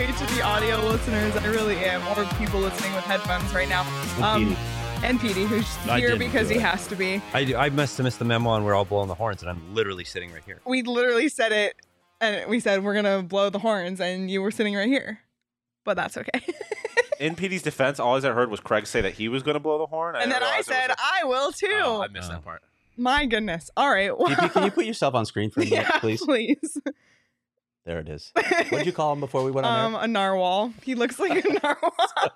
sorry to the audio listeners. I really am, or people listening with headphones right now. And Petey, who's here because he has to be. I must have missed the memo and we're all blowing the horns, and I'm literally sitting right here. We literally said it, and we said we're going to blow the horns, and you were sitting right here. But that's okay. In Petey's defense, all I heard was Craig say that he was going to blow the horn. And then I said, I will too. Oh, I missed that part. My goodness. All right. Well, DP, can you put yourself on screen for a minute, please? Please. There it is. What did you call him before we went on there? A narwhal. He looks like a narwhal.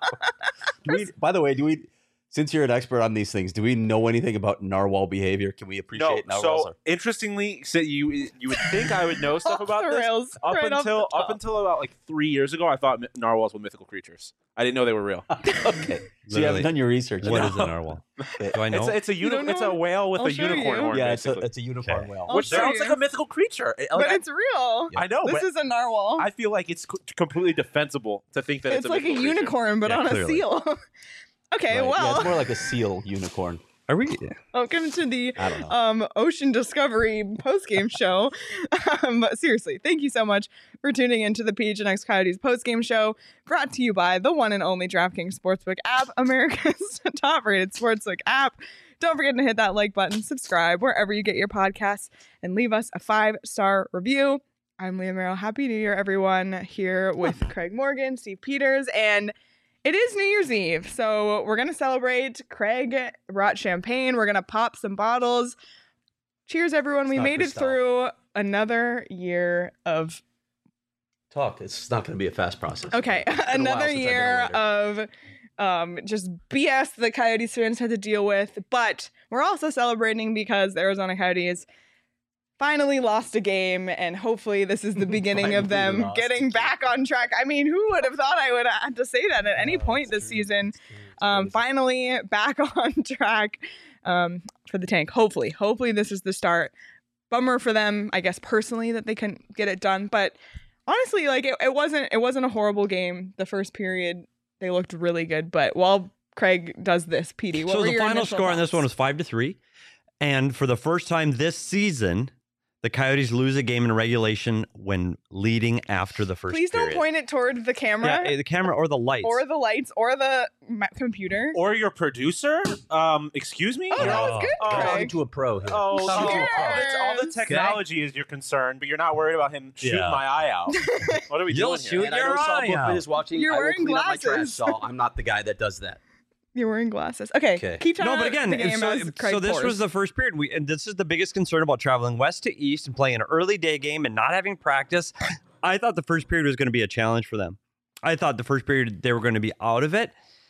By the way, since you're an expert on these things, do we know anything about narwhal behavior? Can we appreciate narwhals? So interestingly, you would think I would know stuff about this. Rails, up until about like 3 years ago, I thought narwhals were mythical creatures. I didn't know they were real. Okay, so you haven't done your research. What is a narwhal? Do I know? It's a whale with a unicorn horn. Yeah, it's a unicorn whale, which sounds like a mythical creature. But it's real. I know. This is a narwhal. I feel like it's completely defensible to think that it's like a unicorn, but on a seal. Okay, right. well. Yeah, it's more like a seal unicorn. Are we? Welcome to the Ocean Discovery post-game show. Seriously, thank you so much for tuning into the PHNX Coyotes post-game show, brought to you by the one and only DraftKings Sportsbook app, America's top-rated sportsbook app. Don't forget to hit that like button, subscribe wherever you get your podcasts, and leave us a 5-star review. I'm Leah Merrill. Happy New Year, everyone. Here with Craig Morgan, Steve Peters, and it is New Year's Eve, so we're going to celebrate. Craig brought champagne. We're going to pop some bottles. Cheers, everyone. We made it through another year of talk. It's not going to be a fast process. Okay, another year of just BS the Coyotes fans had to deal with. But we're also celebrating because the Arizona Coyotes finally lost a game, and hopefully this is the beginning of them getting back on track. I mean, who would have thought I would have to say that at any point this season? Finally back on track for the Tank. Hopefully this is the start. Bummer for them, I guess, personally, that they couldn't get it done. But honestly, like it wasn't a horrible game. The first period, they looked really good. But while Craig does this, Petey, what were your final initial score on thoughts? this one was 5-3, and for the first time this season, the Coyotes lose a game in regulation when leading after the first Please period. don't point it toward the camera. Yeah, the camera or the lights. Or the lights, or the computer. Or your producer. Excuse me? Oh, that was good, Craig. Talking to a pro here. Oh, Cheers. all the technology is your concern, but you're not worried about him shooting my eye out. What are we You'll doing shoot here? And I know Saul Bookman is watching. You're I will wearing clean up my trash, glasses. Saul. I'm not the guy that does that. You're wearing glasses. Okay. Keep talking. No, but again, the game as Craig so this pours. was the first period. And this is the biggest concern about traveling west to east and playing an early day game and not having practice. I thought the first period was going to be a challenge for them. I thought the first period they were going to be out of it.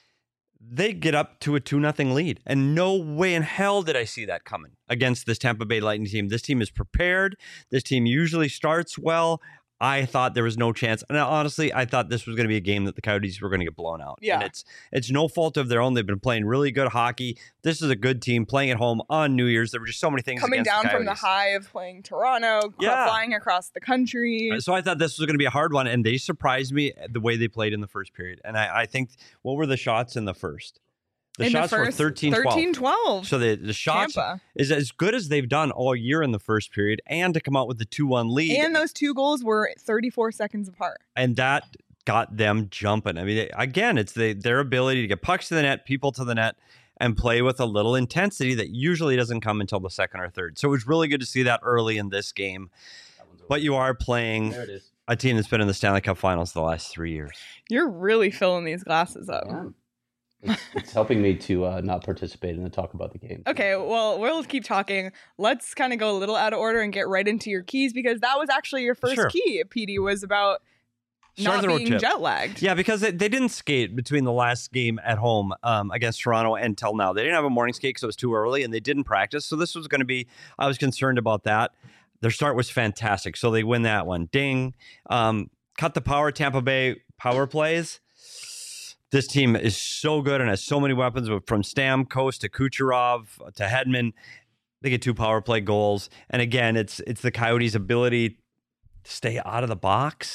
They get up to a 2-0 lead, and no way in hell did I see that coming against this Tampa Bay Lightning team. This team is prepared. This team usually starts well. I thought there was no chance. And honestly, I thought this was going to be a game that the Coyotes were going to get blown out. Yeah. And it's no fault of their own. They've been playing really good hockey. This is a good team playing at home on New Year's. There were just so many things coming down the from the high of playing Toronto, flying across the country. So I thought this was going to be a hard one, and they surprised me the way they played in the first period. And I think, what were the shots in the first? The shots were 13-12. So the shots Tampa is as good as they've done all year in the first period, and to come out with the 2-1 lead. And those two goals were 34 seconds apart. And that got them jumping. I mean, again, it's their ability to get pucks to the net, people to the net, and play with a little intensity that usually doesn't come until the second or third. So it was really good to see that early in this game. But you are playing a team that's been in the Stanley Cup Finals the last 3 years. You're really filling these glasses up. Yeah. It's helping me to not participate in the talk about the game. Okay, well, we'll keep talking. Let's kind of go a little out of order and get right into your keys, because that was actually your first key, Petey, was about not being jet lagged. Yeah, because they didn't skate between the last game at home against Toronto until now. They didn't have a morning skate because it was too early, and they didn't practice. So this was going to be, I was concerned about that. Their start was fantastic, so they win that one. Ding. Cut the power, Tampa Bay power plays. This team is so good and has so many weapons, from Stamkos to Kucherov to Hedman. They get 2 power play goals. And again, it's the Coyotes' ability to stay out of the box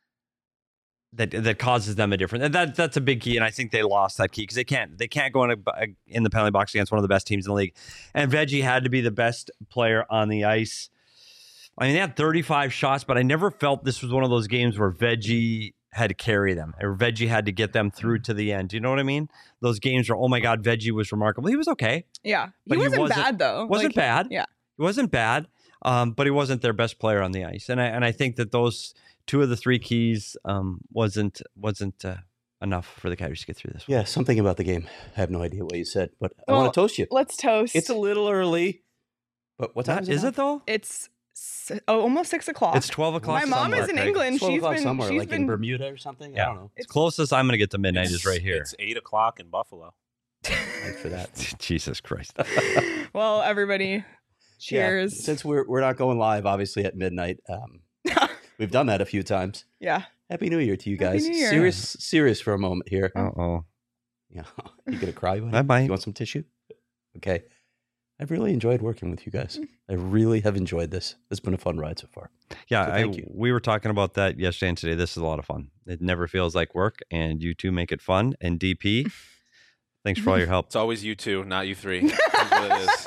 that causes them a difference. And that's a big key, and I think they lost that key because they can't go in the penalty box against one of the best teams in the league. And Veggie had to be the best player on the ice. I mean, they had 35 shots, but I never felt this was one of those games where Veggie had to carry them, or Veggie had to get them through to the end. Do you know what I mean? Those games were, oh my God, Veggie was remarkable. He was okay. Yeah. But He wasn't bad, though. Wasn't bad. Yeah. He wasn't bad, but he wasn't their best player on the ice. And I think that those 2 of the 3 keys wasn't enough for the Coyotes to get through this one. Yeah, something about the game. I have no idea what you said, but I want to toast you. Let's toast. It's a little early, but what time is it though? It's almost 6 o'clock. It's 12 o'clock. My mom is in England. 12 She's o'clock been somewhere, she's like been in Bermuda or something. Yeah. I don't know. It's closest I'm going to get to midnight is right here. It's 8 o'clock in Buffalo. Thanks for that. Jesus Christ. Well, everybody, cheers. Yeah, since we're not going live, obviously at midnight, we've done that a few times. Yeah. Happy New Year to you Happy guys. New Year. Serious for a moment here. Uh-oh. Yeah, you gonna cry? I might. You want some tissue? Okay. I've really enjoyed working with you guys. I really have enjoyed this. It's been a fun ride so far. Yeah, So thank you. we were talking about that yesterday and today. This is a lot of fun. It never feels like work, and you two make it fun. And DP, thanks for all your help. It's always you 2, not you 3. That's what it is.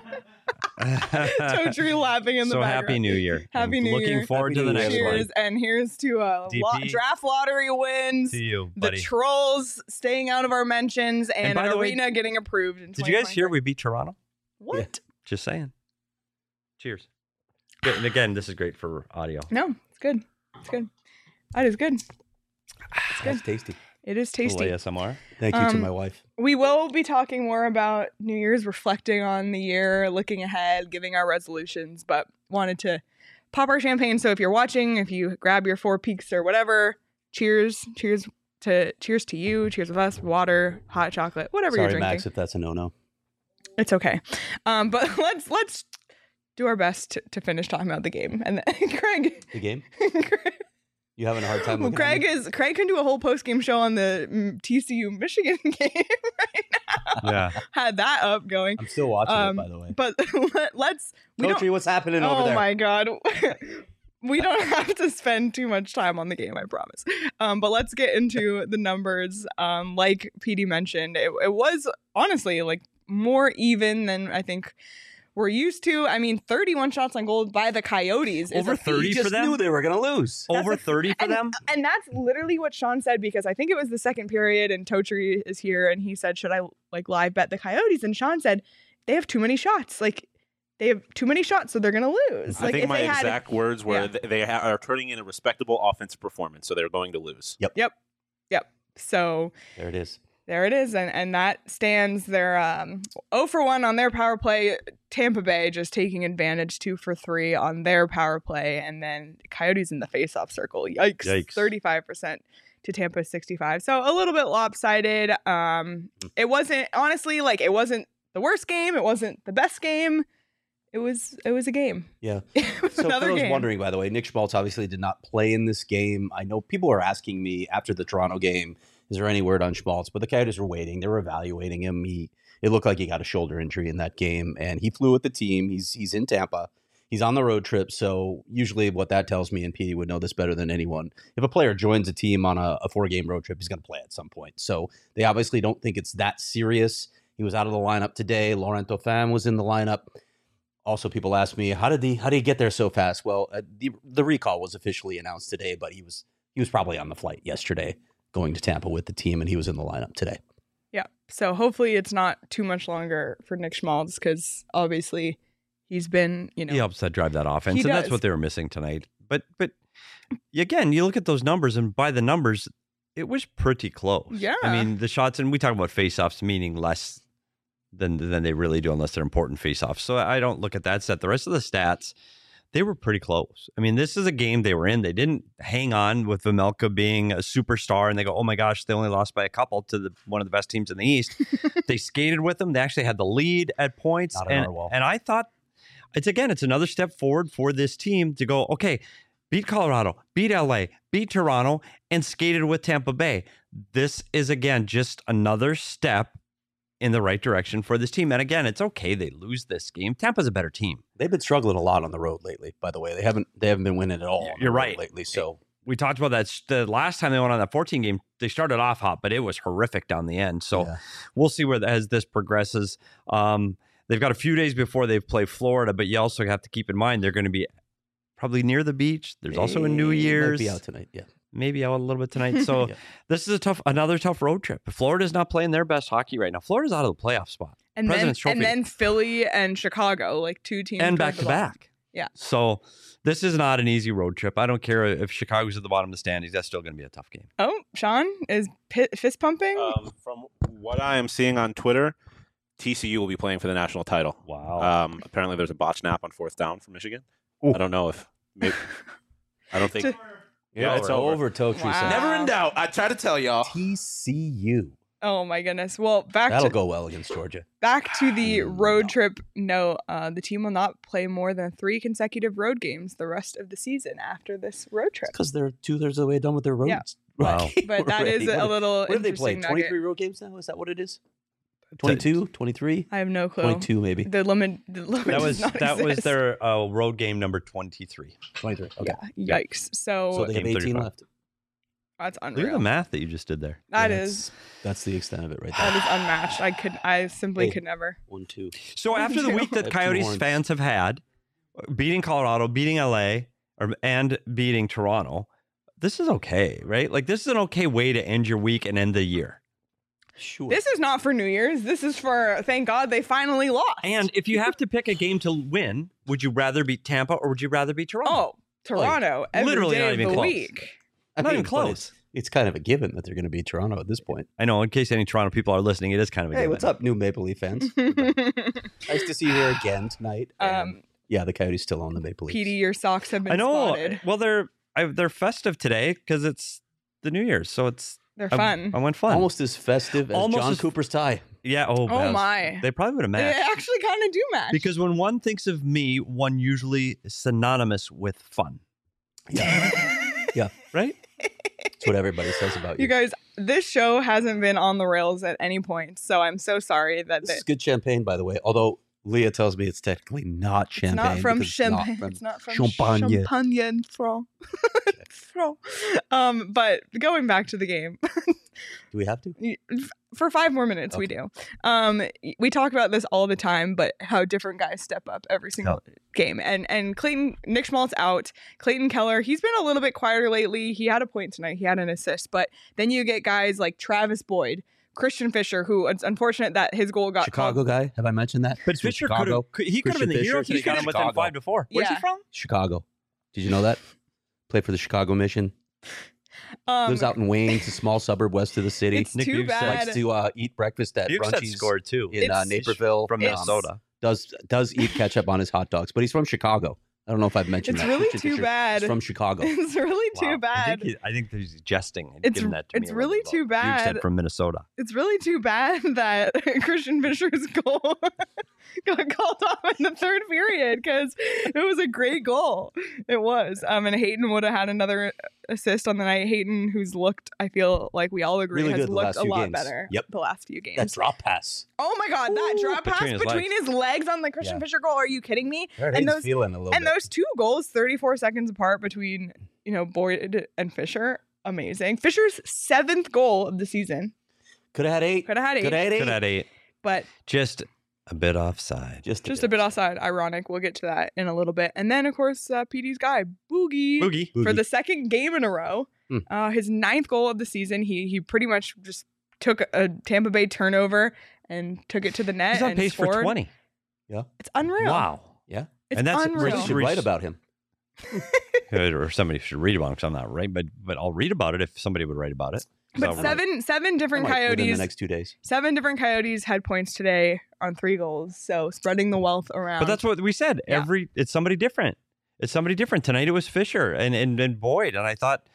Totally laughing in the So background. Happy New Year. Happy And New looking Year. forward Happy to the New Year, next everybody. one. Cheers, and here's to DP. draft lottery wins. To you, The buddy. Trolls staying out of our mentions, and by an the way, arena getting approved in Did you guys hear 2023. we beat Toronto? What? Just saying. Cheers. Good. And again, this is great for audio. No, it's good. It's good. That is good. That's tasty. It is tasty. ASMR. Thank you to my wife. We will be talking more about New Year's, reflecting on the year, looking ahead, giving our resolutions, but wanted to pop our champagne. So if you're watching, if you grab your 4 Peaks or whatever, cheers. Cheers to you. Cheers with us. Water, hot chocolate, whatever you're Sorry, drinking. Max, if that's a no-no. It's okay. But let's do our best to finish talking about the game. And then, Craig. The game? You having a hard time looking at me? Craig can do a whole post-game show on the TCU Michigan game right now. Yeah. Had that up going. I'm still watching it, by the way. But let's. Coachy, what's happening over there? Oh my God. We don't have to spend too much time on the game, I promise. But let's get into the numbers. Like PD mentioned, it was honestly like more even than I think we're used to. I mean, 31 shots on goal by the Coyotes. Over 30 You for them? knew they were going to lose. Over 30 for them? And that's literally what Sean said, because I think it was the second period and Totri is here and he said, should I like live bet the Coyotes? And Sean said, they have too many shots. Like, they have too many shots, so they're going to lose. I Like, think if my they had, exact words were Yeah. they are turning in a respectable offensive performance, so they're going to lose. Yep. So There it is. there it is. And that stands their 0 for 1 on their power play. Tampa Bay just taking advantage, 2 for 3 on their power play. And then Coyotes in the faceoff circle. Yikes. 35% to Tampa 65. So a little bit lopsided. It wasn't, honestly, like, it wasn't the worst game. It wasn't the best game. It was a game. Yeah. It was So for another those game. wondering, by the way, Nick Schmaltz obviously did not play in this game. I know people are asking me after the Toronto game, is there any word on Schmaltz? But the Coyotes were waiting. They were evaluating him. It looked like he got a shoulder injury in that game, and he flew with the team. He's in Tampa. He's on the road trip. So usually what that tells me, and Petey would know this better than anyone, if a player joins a team on a 4-game road trip, he's going to play at some point. So they obviously don't think it's that serious. He was out of the lineup today. Laurent Dauphin was in the lineup. Also, people ask me, how did he get there so fast? Well, the recall was officially announced today, but he was probably on the flight yesterday going to Tampa with the team, and he was in the lineup today. Yeah. So hopefully it's not too much longer for Nick Schmaltz, because obviously he's been, He helps that drive that offense, He and that's does. what they were missing tonight. But again, you look at those numbers, and by the numbers, it was pretty close. Yeah. I mean, the shots, and we talk about faceoffs meaning less than they really do unless they're important faceoffs. So I don't look at that set. The rest of the stats, they were pretty close. I mean, this is a game they were in. They didn't hang on with Vejmelka being a superstar, and they go, oh my gosh, they only lost by a couple to one of the best teams in the East. They skated with them. They actually had the lead at points. Not an Narwhal. And I thought, it's another step forward for this team to go, okay, beat Colorado, beat LA, beat Toronto, and skated with Tampa Bay. This is, again, just another step in the right direction for this team. And again, it's okay they lose this game. Tampa's a better team. They've been struggling a lot on the road lately, by the way. They haven't been winning at all on You're the road right. lately. So We talked about that. The last time they went on that 14 game, they started off hot, but it was horrific down the end. So yeah. we'll see as this progresses. They've got a few days before they play Florida, but you also have to keep in mind they're going to be probably near the beach. There's also a New They Year's. might be out tonight. Yeah. maybe out a little bit tonight. So this is another tough road trip. Florida's not playing their best hockey right now. Florida's out of the playoff spot. And then Philly and Chicago, like 2 teams. And back to back. Yeah. So this is not an easy road trip. I don't care if Chicago's at the bottom of the standings. That's still going to be a tough game. Oh, Sean is fist pumping. From what I am seeing on Twitter, TCU will be playing for the national title. Wow. Apparently there's a botch snap on 4th down for Michigan. Ooh. I don't know if maybe, I don't think. Yeah, it's over. Totri. Wow. Never in doubt. I try to tell y'all. TCU. Oh my goodness. Well, that'll go well against Georgia. Back to the road trip. No, the team will not play more than 3 consecutive road games the rest of the season after this road trip. Because they're 2/3 of the way done with their roads. Yeah. Wow. But that is a little What have they interesting played? 23 road games now? Is that what it is? 22, 23? I have no clue. 22 maybe. The limit that was their road game number 23. 23. Okay. Yeah. Yikes. So they have 18 left. That's Look unreal. at the math that you just did there. That's the extent of it right there. That is unmatched. I simply could never. 1, 2. So after the week that Coyotes fans have had, beating Colorado, beating LA, and beating Toronto, this is okay, right? Like this is an okay way to end your week and end the year. Sure. This is not for New Year's. This is for, thank God they finally lost. And if you have to pick a game to win, would you rather beat Tampa or would you rather beat Toronto? Oh, Toronto. Every literally day not of even the close. week. Not even close. It's kind of a given that they're going to beat Toronto at this point. I know. In case any Toronto people are listening, it is kind of a Hey, given. what's up, new Maple Leaf fans? Nice to see you here again tonight. Yeah, the Coyotes still own the Maple Leafs. PD, your socks have been I know. spotted. Well, they're festive today because it's the New Year's, so they're fun. I went fun. Almost as festive as John Cooper's tie. Yeah. Oh my. They probably would have matched. They actually kind of do match. Because when one thinks of me, one usually is synonymous with fun. Yeah. Yeah. Right? That's what everybody says about you. You guys, this show hasn't been on the rails at any point, so I'm so sorry that this is good champagne, by the way. Although Leah tells me it's technically not champagne. It's not from champagne. It's not from Champagne. But going back to the game. Do we have to? For 5 more minutes, we do. We talk about this all the time, but how different guys step up every single game. And Clayton, Nick Schmaltz out. Clayton Keller, he's been a little bit quieter lately. He had a point tonight. He had an assist. But then you get guys like Travis Boyd, Christian Fisher, who it's unfortunate that his goal got Chicago guy. Have I mentioned that? But Fisher could have been the hero. He got him within 5-4. Where's he from? Chicago. Did you know that? Played for the Chicago Mission. Lives out in Wayne, it's a small suburb west of the city. It's too bad. Likes to eat breakfast at Brunchies. Scored too in Naperville from Minnesota. Does eat ketchup on his hot dogs, but he's from Chicago. I don't know if I've mentioned that. It's really too bad. He's from Chicago. It's really too bad. I think he's jesting. It's really too bad. You said from Minnesota. It's really too bad that Christian Fisher's goal got called off in the 3rd period because it was a great goal. It was. And Hayton would have had another assist on the night. Hayton, who's looked, I feel like we all agree, really has looked a lot better the last few games. That drop pass. Oh my God, that drop pass between his legs on the Christian Fisher goal. Are you kidding me? And those feeling a little bit. Those 2 goals, 34 seconds apart between, Boyd and Fisher. Amazing. Fisher's 7th goal of the season. Could have had 8. Could have had 8. But just a bit offside. Just a bit offside. Ironic. We'll get to that in a little bit. And then, of course, PD's guy, Boogie. For the 2nd game in a row. His 9th goal of the season. He pretty much just took a Tampa Bay turnover and took it to the net. He's on pace for 20. Yeah. It's unreal. Wow. Yeah. It's unreal. Somebody should write about him. Or somebody should read about him because I'm not right, but I'll read about it if somebody would write about it. But seven different Coyotes within the next 2 days. 7 different Coyotes had points today on 3 goals. So spreading the wealth around. But that's what we said. Yeah. It's somebody different. It's somebody different. Tonight it was Fisher and Boyd. And I thought,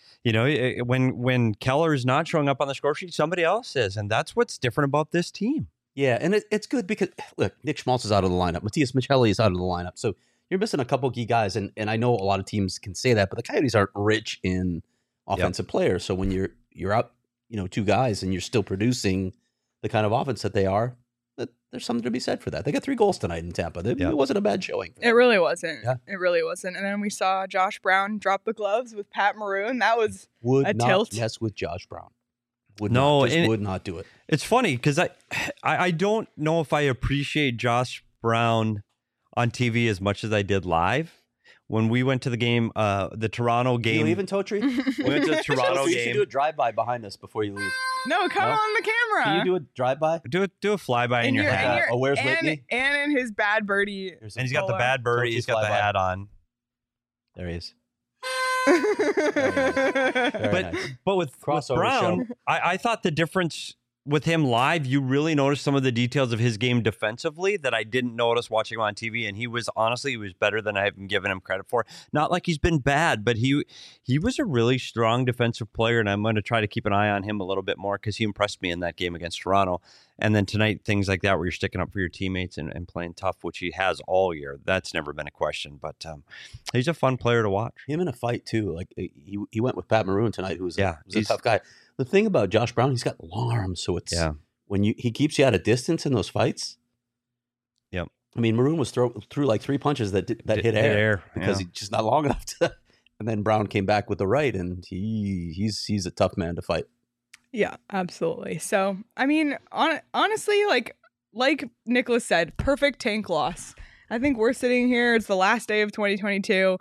when Keller is not showing up on the score sheet, somebody else is. And that's what's different about this team. Yeah, and it's good because, look, Nick Schmaltz is out of the lineup. Matthias Michelli is out of the lineup. So you're missing a couple key guys. And I know a lot of teams can say that, but the Coyotes aren't rich in offensive players. So when you're out, 2 guys and you're still producing the kind of offense that they are, there's something to be said for that. They got 3 goals tonight in Tampa. It wasn't a bad showing. It really wasn't. Yeah. It really wasn't. And then we saw Josh Brown drop the gloves with Pat Maroon. That was a tilt. Yes, with Josh Brown. Would not do it. It's funny because I don't know if I appreciate Josh Brown on TV as much as I did live. when we went to the game, the Toronto game. You leaving, Totri? We went to the Toronto You game. should do a drive-by behind us before you leave. No, come No? on the camera. Can you do a drive-by? Do a flyby in your hat. Where's and, Whitney? And in his Bad Birdie. And he's got the bad bird. He's got the flyby. hat on. There he is. But with Crossover Brown, I thought the difference with him live, you really noticed some of the details of his game defensively that I didn't notice watching him on TV. And he was better than I've been giving him credit for. Not like he's been bad, but he was a really strong defensive player. And I'm going to try to keep an eye on him a little bit more because he impressed me in that game against Toronto. And then tonight, things like that where you're sticking up for your teammates and playing tough, which he has all year. That's never been a question. But he's a fun player to watch. Him in a fight, too. Like he went with Pat Maroon tonight, who's a tough guy. The thing about Josh Brown, he's got long arms, so it's when he keeps you at a distance in those fights. Yep. I mean, Maroon was threw like 3 punches that hit air because he's just not long enough to. And then Brown came back with the right, and he's a tough man to fight. Yeah, absolutely. So, I mean, honestly, like Nicholas said, perfect tank loss. I think we're sitting here. It's the last day of 2022.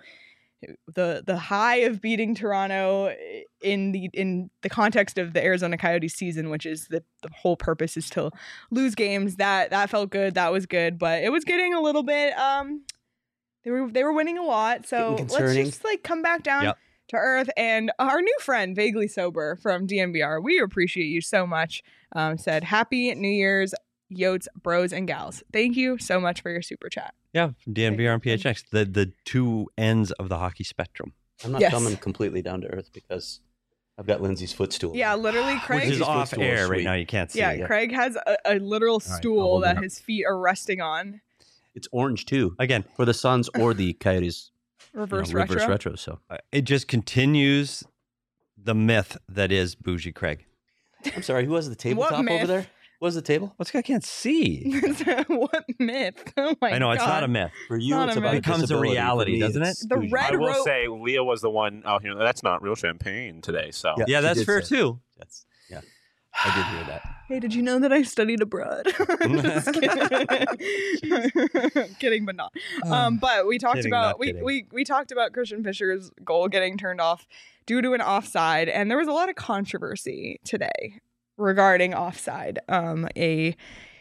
The high of beating Toronto in the context of the Arizona Coyotes season, which is the whole purpose is to lose games. That felt good. That was good, but it was getting a little bit. They were winning a lot, so let's just like come back down to earth. And our new friend, Vaguely Sober from DNVR, we appreciate you so much. Said Happy New Year's, Yotes, bros and gals. Thank you so much for your super chat. Yeah, from DNVR and PHX, the two ends of the hockey spectrum. I'm not coming completely down to earth because I've got Lindsay's footstool. Yeah, literally, Craig. Which is off air right now. You can't see it. Yeah, Craig has a literal stool that his feet are resting on. It's orange, too. Again. For the Suns or the Coyotes. Reverse retro. So it just continues the myth that is Bougie Craig. I'm sorry, who has the tabletop over there? What's the table? What's I can't see. What myth? Oh my god! I know it's not a myth. For you, it's about becomes a reality, doesn't it? The red I will rope. say, Leah was the one out here. That's not real champagne today. So yeah, that's fair too. Yeah, I did hear that. Hey, did you know that I studied abroad? Just kidding. Kidding, but not. But we talked about we talked about Christian Fischer's goal getting turned off due to an offside, and there was a lot of controversy today regarding offside. A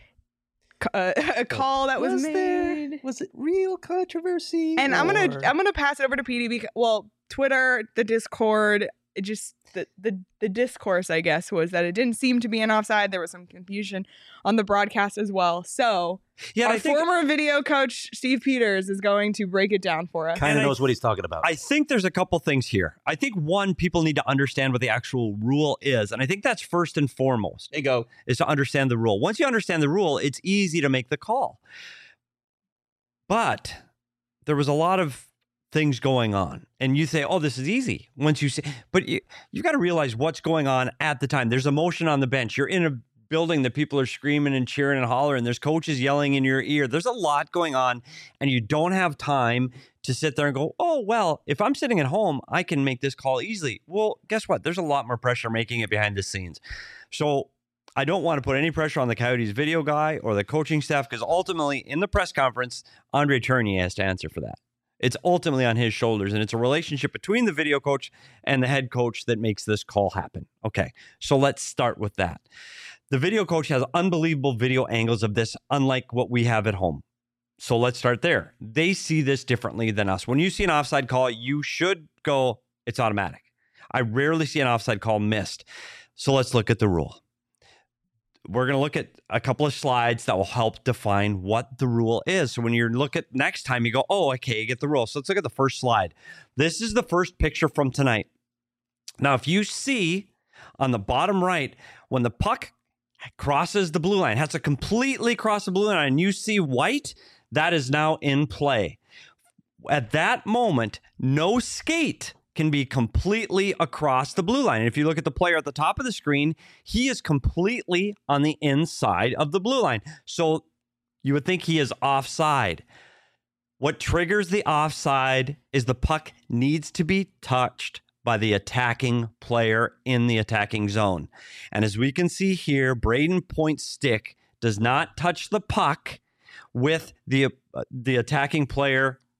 call that was made. Was it real controversy? And I'm gonna pass it over to PD because Twitter, the Discord, it just the discourse, I guess, was that it didn't seem to be an offside. There was some confusion on the broadcast as well. So our former video coach Steve Peters is going to break it down for us. Kind of knows what he's talking about. I think there's a couple things here. I think one, people need to understand what the actual rule is, and I think that's first and foremost. There you go. Is to understand the rule. Once you understand the rule, it's easy to make the call. But there was a lot of things going on, and you say, oh, this is easy. Once you say, but you got to realize what's going on at the time. There's emotion on the bench. You're in a building that people are screaming and cheering and hollering. There's coaches yelling in your ear. There's a lot going on, and you don't have time to sit there and go, oh, well, if I'm sitting at home, I can make this call easily. Well, guess what? There's a lot more pressure making it behind the scenes. So I don't want to put any pressure on the Coyotes video guy or the coaching staff, because ultimately in the press conference, Andre Tourigny has to answer for that. It's ultimately on his shoulders, and it's a relationship between the video coach and the head coach that makes this call happen. Okay, so let's start with that. The video coach has unbelievable video angles of this, unlike what we have at home. So let's start there. They see this differently than us. When you see an offside call, you should go, it's automatic. I rarely see an offside call missed. So let's look at the rule. We're going to look at a couple of slides that will help define what the rule is. So when you look at next time, you go, oh, okay, you get the rule. So let's look at the first slide. This is the first picture from tonight. Now, if you see on the bottom right, when the puck crosses the blue line, has to completely cross the blue line, and you see white, that is now in play. At that moment, no skate can be completely across the blue line. And if you look at the player at the top of the screen, he is completely on the inside of the blue line. So you would think he is offside. What triggers the offside is the puck needs to be touched by the attacking player in the attacking zone. And as we can see here, Braden Point's stick does not touch the puck with the attacking player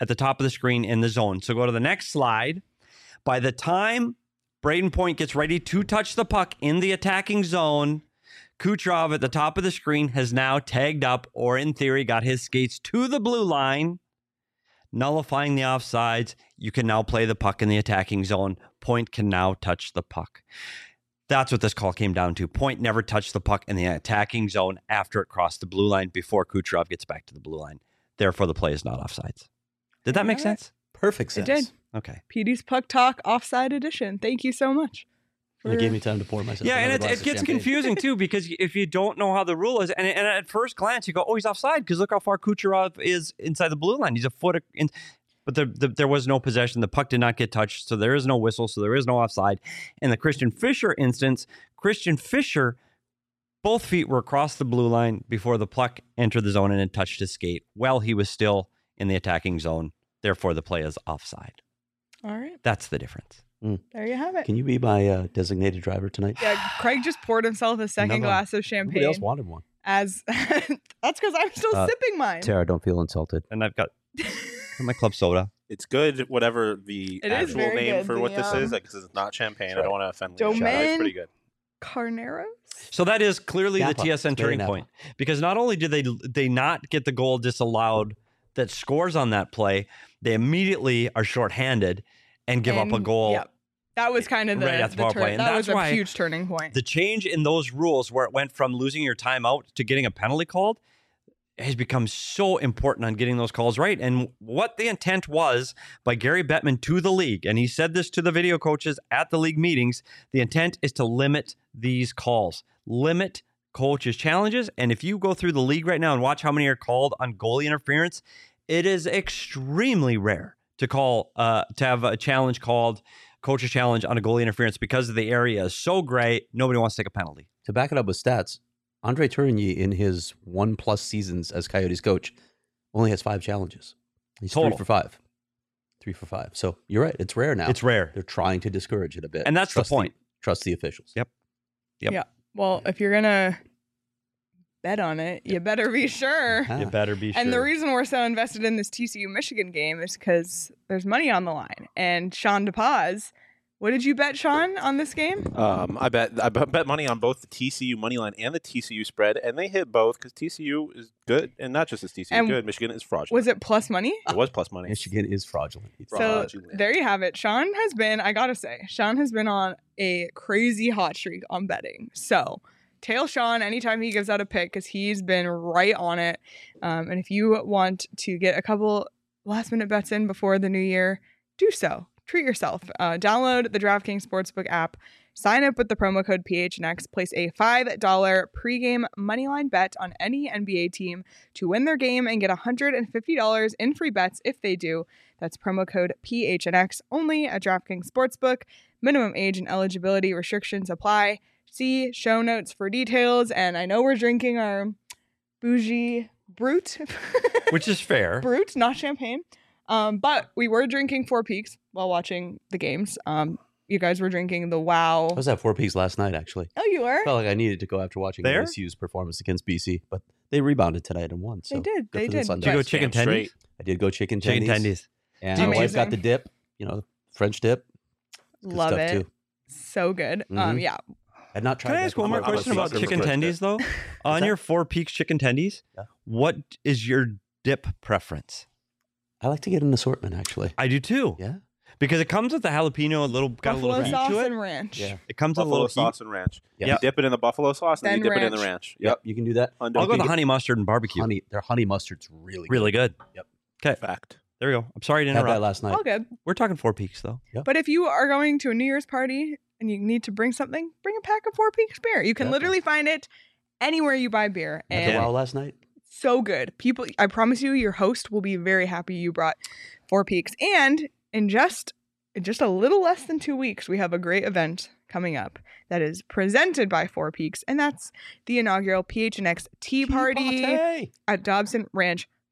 at the top of the screen in the zone. So go to the next slide. By the time Braden Point gets ready to touch the puck in the attacking zone, Kucherov at the top of the screen has now tagged up, or in theory, got his skates to the blue line, nullifying the offsides. You can now play the puck in the attacking zone. Point can now touch the puck. That's what this call came down to. Point never touched the puck in the attacking zone after it crossed the blue line before Kucherov gets back to the blue line. Therefore, the play is not offsides. Did that make sense? Perfect sense. It did. Okay. PD's Puck Talk Offside Edition. Thank you so much. It gave me time to pour myself. Yeah, and another glass it of gets champagne. confusing too, because if you don't know how the rule is, and at first glance you go, "Oh, he's offside," because look how far Kucherov is inside the blue line. He's a foot in. But there was no possession. The puck did not get touched, so there is no whistle, so there is no offside. In the Christian Fischer instance, Christian Fischer, both feet were across the blue line before the puck entered the zone and it touched his skate while he was still in the attacking zone. Therefore, the play is offside. All right. That's the difference. There you have it. Can you be my designated driver tonight? Yeah, Craig just poured himself a second glass of champagne. Nobody else wanted one. As that's because I'm still sipping mine. Tara, don't feel insulted. And I've got my club soda. It's good, whatever the It is actual very name good, for what this is, the, because it's not champagne. That's I don't want to offend Domaine Lisa. It's pretty good. Carneros. So that is clearly Napa. the TSN turning Napa. point, because not only did they not get the goal disallowed that scores on that play, they immediately are shorthanded and give up a goal. Yep. That was kind of the, right at the power play. And that was that's why a huge turning point. The change in those rules, where it went from losing your timeout to getting a penalty called, has become so important on getting those calls right. And what the intent was by Gary Bettman to the league, and he said this to the video coaches at the league meetings, the intent is to limit these calls, limit coaches' challenges. And if you go through the league right now and watch how many are called on goalie interference, it is extremely rare to have a challenge called coach's challenge on a goalie interference, because the area is so gray, nobody wants to take a penalty. To back it up with stats, Andre Tourigny in his 1+ seasons as Coyotes coach only has 5 challenges. He's Total. 3 for 5. 3 for 5. So you're right. It's rare now. It's rare. They're trying to discourage it a bit. And that's the point. Trust the officials. Yep. Yeah. Well, if you're gonna bet on it, you better be sure. Ah. You better be sure. And the reason we're so invested in this TCU Michigan game is because there's money on the line. And Sean DePaz, what did you bet, Sean, on this game? I bet money on both the TCU money line and the TCU spread, and they hit both because TCU is good, and not just as TCU And good. Michigan is fraudulent. Was it plus money? It was plus money. Michigan is fraudulent. So Fraudulent. there you have it. Sean has been, I gotta say, Sean has been on a crazy hot streak on betting. So tail Sean anytime he gives out a pick, because he's been right on it. And if you want to get a couple last minute bets in before the new year, do so. Treat yourself. Download the DraftKings Sportsbook app. Sign up with the promo code PHNX. Place a $5 pregame moneyline bet on any NBA team to win their game and get $150 in free bets if they do. That's promo code PHNX only at DraftKings Sportsbook. Minimum age and eligibility restrictions apply. See show notes for details. And I know we're drinking our bougie Brut. Which is fair. Brut, not champagne. But we were drinking Four Peaks while watching the games. You guys were drinking the Wow. I was at 4 Peaks last night, actually. Oh, you were? Felt like I needed to go after watching There? LSU's performance against BC, but they rebounded tonight and won. So They did. good They for the did. Sun Did you go Devils. chicken Damn tendies? straight. I did go chicken Chicken tendies. tendies. And my wife Amazing. got the dip, French dip. Good Love stuff, it. too. So good. Mhm. Yeah. I'd not tried Can I that ask one before. more I'm a question about sucker for chicken French tendies, though? On that? your Four Peaks chicken tendies, Yeah. what is your dip preference? I like to get an assortment, actually. I do too. Yeah. Because it comes with the jalapeno, got a Buffalo little heat sauce to it. and ranch. Yeah. It comes with a Buffalo little sauce and ranch. Yep. You dip it in the buffalo sauce, and then you Then dip it in the ranch. ranch. Yep. You can do that. heat. I'll go the honey mustard and barbecue. Their honey mustard's really good. Really good. Yep. Okay, Fact. there we go. I'm sorry to Had that interrupt. last night. All good. We're talking Four Peaks, though. But if you are going to a New Year's party and you need to bring something, bring a pack of Four Peaks beer. You can Yeah. literally find it anywhere you buy beer. Had the And wow last night. so good. People, I promise you, your host will be very happy you brought Four Peaks. And in just a little less than 2 weeks, we have a great event coming up that is presented by Four Peaks, and that's the inaugural PHNX Tea Party Party. at Dobson Ranch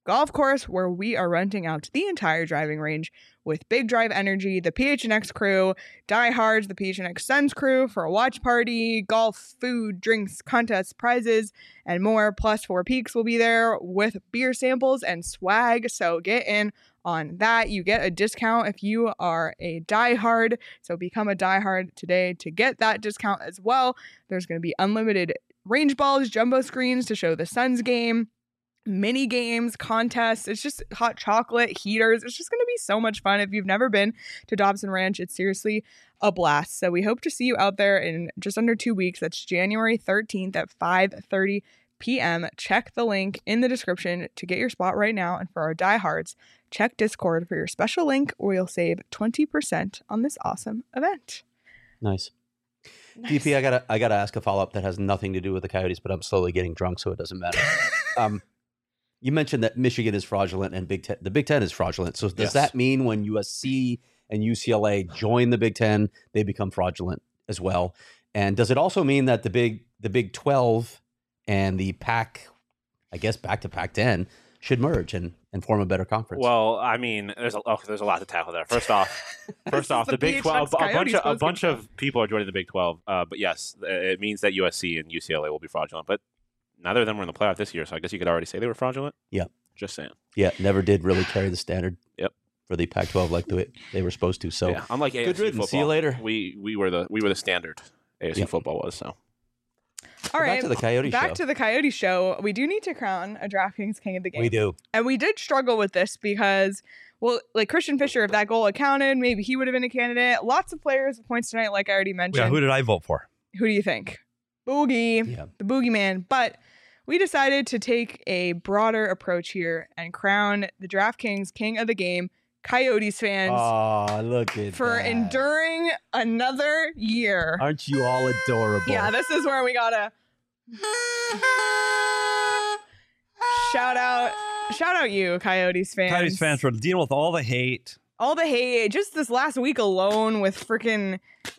golf course where we are renting out the entire driving range with Big Drive Energy, the PHNX crew, Diehards, the PHNX Suns crew for a watch party, golf, food, drinks, contests, prizes, and more. Plus, Four Peaks will be there with beer samples and swag. So get in on that. You get a discount if you are a diehard. So become a diehard today to get that discount as well. There's going to be unlimited range balls, jumbo screens to show the Suns game, mini games, contests. It's just hot chocolate, heaters. It's just going to be so much fun. If you've never been to Dobson Ranch, it's seriously a blast. So we hope to see you out there in just under 2 weeks. That's January 13th at 5:30 p.m. Check the link in the description to get your spot right now. And for our diehards, check Discord for your special link where you'll save 20% on this awesome event. Nice. DP, I gotta ask a follow-up that has nothing to do with the Coyotes, but I'm slowly getting drunk, so it doesn't matter. You mentioned that Michigan is fraudulent and the Big Ten is fraudulent. So does that mean when USC and UCLA join the Big Ten, they become fraudulent as well? And does it also mean that the Big 12 and the Pac, I guess back to Pac-10, should merge and form a better conference? Well, I mean, there's a lot to tackle there. First off, the Big 12, a bunch of people are joining the Big 12. But yes, it means that USC and UCLA will be fraudulent. But neither of them were in the playoff this year, so I guess you could already say they were fraudulent. Yeah, just saying. Yeah, never did really carry the standard. Yep. For the Pac-12 like they were supposed to. So yeah, unlike ASU good riddance. Football, See you later. We were the standard. ASU football was so. All right, back to the Coyote show. Back to the Coyote show. We do need to crown a DraftKings King of the Game. We do. And we did struggle with this because, well, like Christian Fisher, if that goal had counted, maybe he would have been a candidate. Lots of players with points tonight, like I already mentioned. Yeah, who did I vote for? Who do you think? Boogie, the boogeyman. But we decided to take a broader approach here and crown the DraftKings King of the Game, Coyotes fans. Oh, look at for that. enduring another year. Aren't you all adorable? Yeah, this is where we gotta shout out you, Coyotes fans. Coyotes fans for dealing with all the hate. All the hate. Just this last week alone with freaking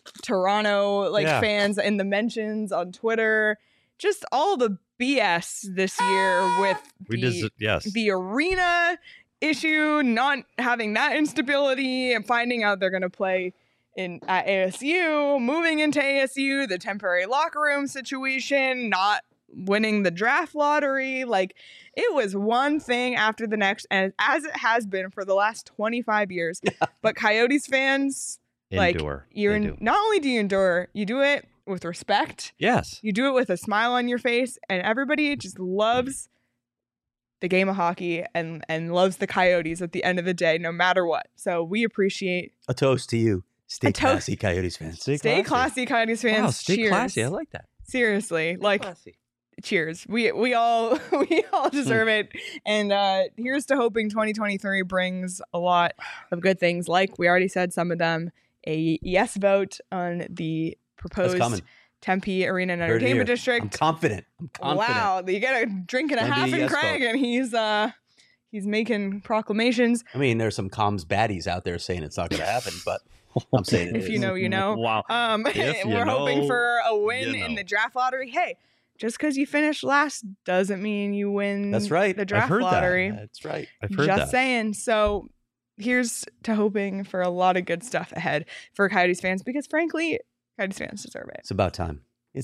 Toronto fans in the mentions on Twitter. Just all the BS this year with the arena issue, not having that instability, and finding out they're going to play at ASU, moving into ASU, the temporary locker room situation, not winning the draft lottery. Like, it was one thing after the next, and as it has been for the last 25 years. But Coyotes fans, endure. Not only do you endure, you do it with respect. Yes. You do it with a smile on your face, and everybody just loves the game of hockey and loves the Coyotes at the end of the day, no matter what. So we appreciate a toast to you. Stay classy, Coyotes fans. Stay classy, Coyotes fans. Wow, stay cheers. classy. I like that. Seriously, cheers. We all deserve it. And here's to hoping 2023 brings a lot of good things. Like we already said, some of them, a yes vote on the proposed Tempe Arena and Entertainment District. I'm confident. Wow, you get a drink and a half in Craig, and he's making proclamations. I mean, there's some comms baddies out there saying it's not going to happen, but I'm saying it if is. You know, you know. Wow. We're hoping for a win in the draft lottery. Hey, just because you finished last doesn't mean you win. That's right. The draft lottery. That's right. I've heard that. Just saying. So here's to hoping for a lot of good stuff ahead for Coyotes fans, because frankly, Coyotes fans deserve it. It's about time.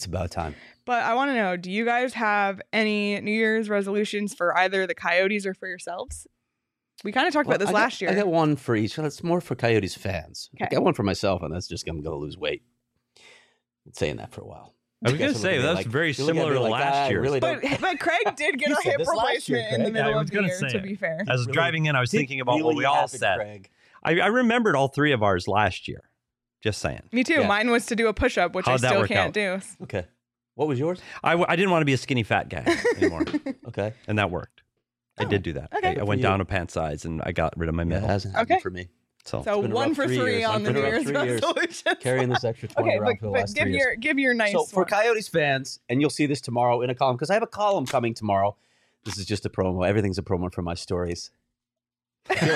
But I want to know, do you guys have any New Year's resolutions for either the Coyotes or for yourselves? We kind of talked about this last year. I got one for each. It's more for Coyotes fans. Okay. I got one for myself, and that's just I'm going to lose weight. Been saying that for a while. I was going to say, that's very similar to last year. Really but Craig did get a hip replacement in the middle of the year, to be fair. As I was driving in, I was thinking about what we all said. Craig. I remembered all three of ours last year. Just saying. Me too. Yeah. Mine was to do a push-up, which I still can't do. Okay. What was yours? I didn't want to be a skinny fat guy anymore. Okay. And that worked. I did do that. Okay. I went down a pant size and I got rid of my middle. It hasn't happened for me. So 1 for 3 on the New Year's resolutions. Carrying this extra 20 around for the last 3 years. Give your nice So for one. Coyotes fans, and you'll see this tomorrow in a column, because I have a column coming tomorrow. This is just a promo. Everything's a promo for my stories. I feel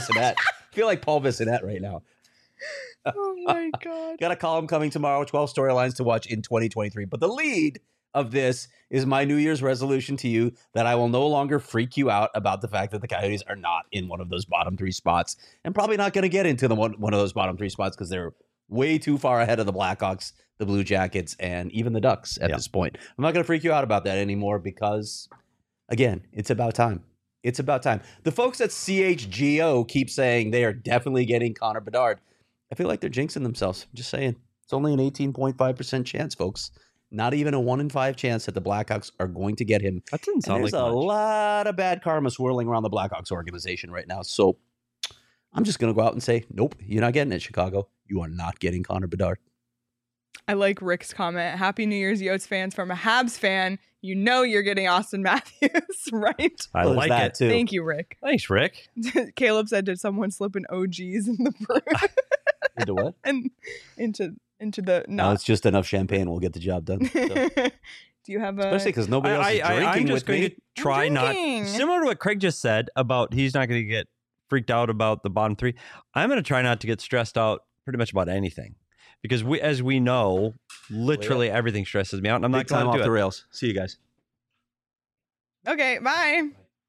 like Paul Bissonnette right now. Oh my God. Got a column coming tomorrow, 12 storylines to watch in 2023. But the lead of this is my New Year's resolution to you that I will no longer freak you out about the fact that the Coyotes are not in one of those bottom 3 spots and probably not going to get into one of those bottom 3 spots because they're way too far ahead of the Blackhawks, the Blue Jackets, and even the Ducks at this point. I'm not going to freak you out about that anymore because, again, it's about time. It's about time. The folks at CHGO keep saying they are definitely getting Connor Bedard. I feel like they're jinxing themselves. I'm just saying. It's only an 18.5% chance, folks. Not even a 1 in 5 chance that the Blackhawks are going to get him. That doesn't sound like much. There's a lot of bad karma swirling around the Blackhawks organization right now. So I'm just going to go out and say, nope, you're not getting it, Chicago. You are not getting Connor Bedard. I like Rick's comment. Happy New Year's, Yotes fans. From a Habs fan, you know you're getting Austin Matthews, right? I like that it too. Thank you, Rick. Thanks, Rick. Caleb said, did someone slip an OGs in the brew? Into what? And into the No, it's just enough champagne. We'll get the job done. So. Do you have a... Especially because nobody else is drinking I'm just with going me. to try not... Similar to what Craig just said about he's not going to get freaked out about the bottom 3. I'm going to try not to get stressed out pretty much about anything. Because as we know, literally everything stresses me out. And I'm not Big time going to off do the it. rails. See you guys. Okay, bye.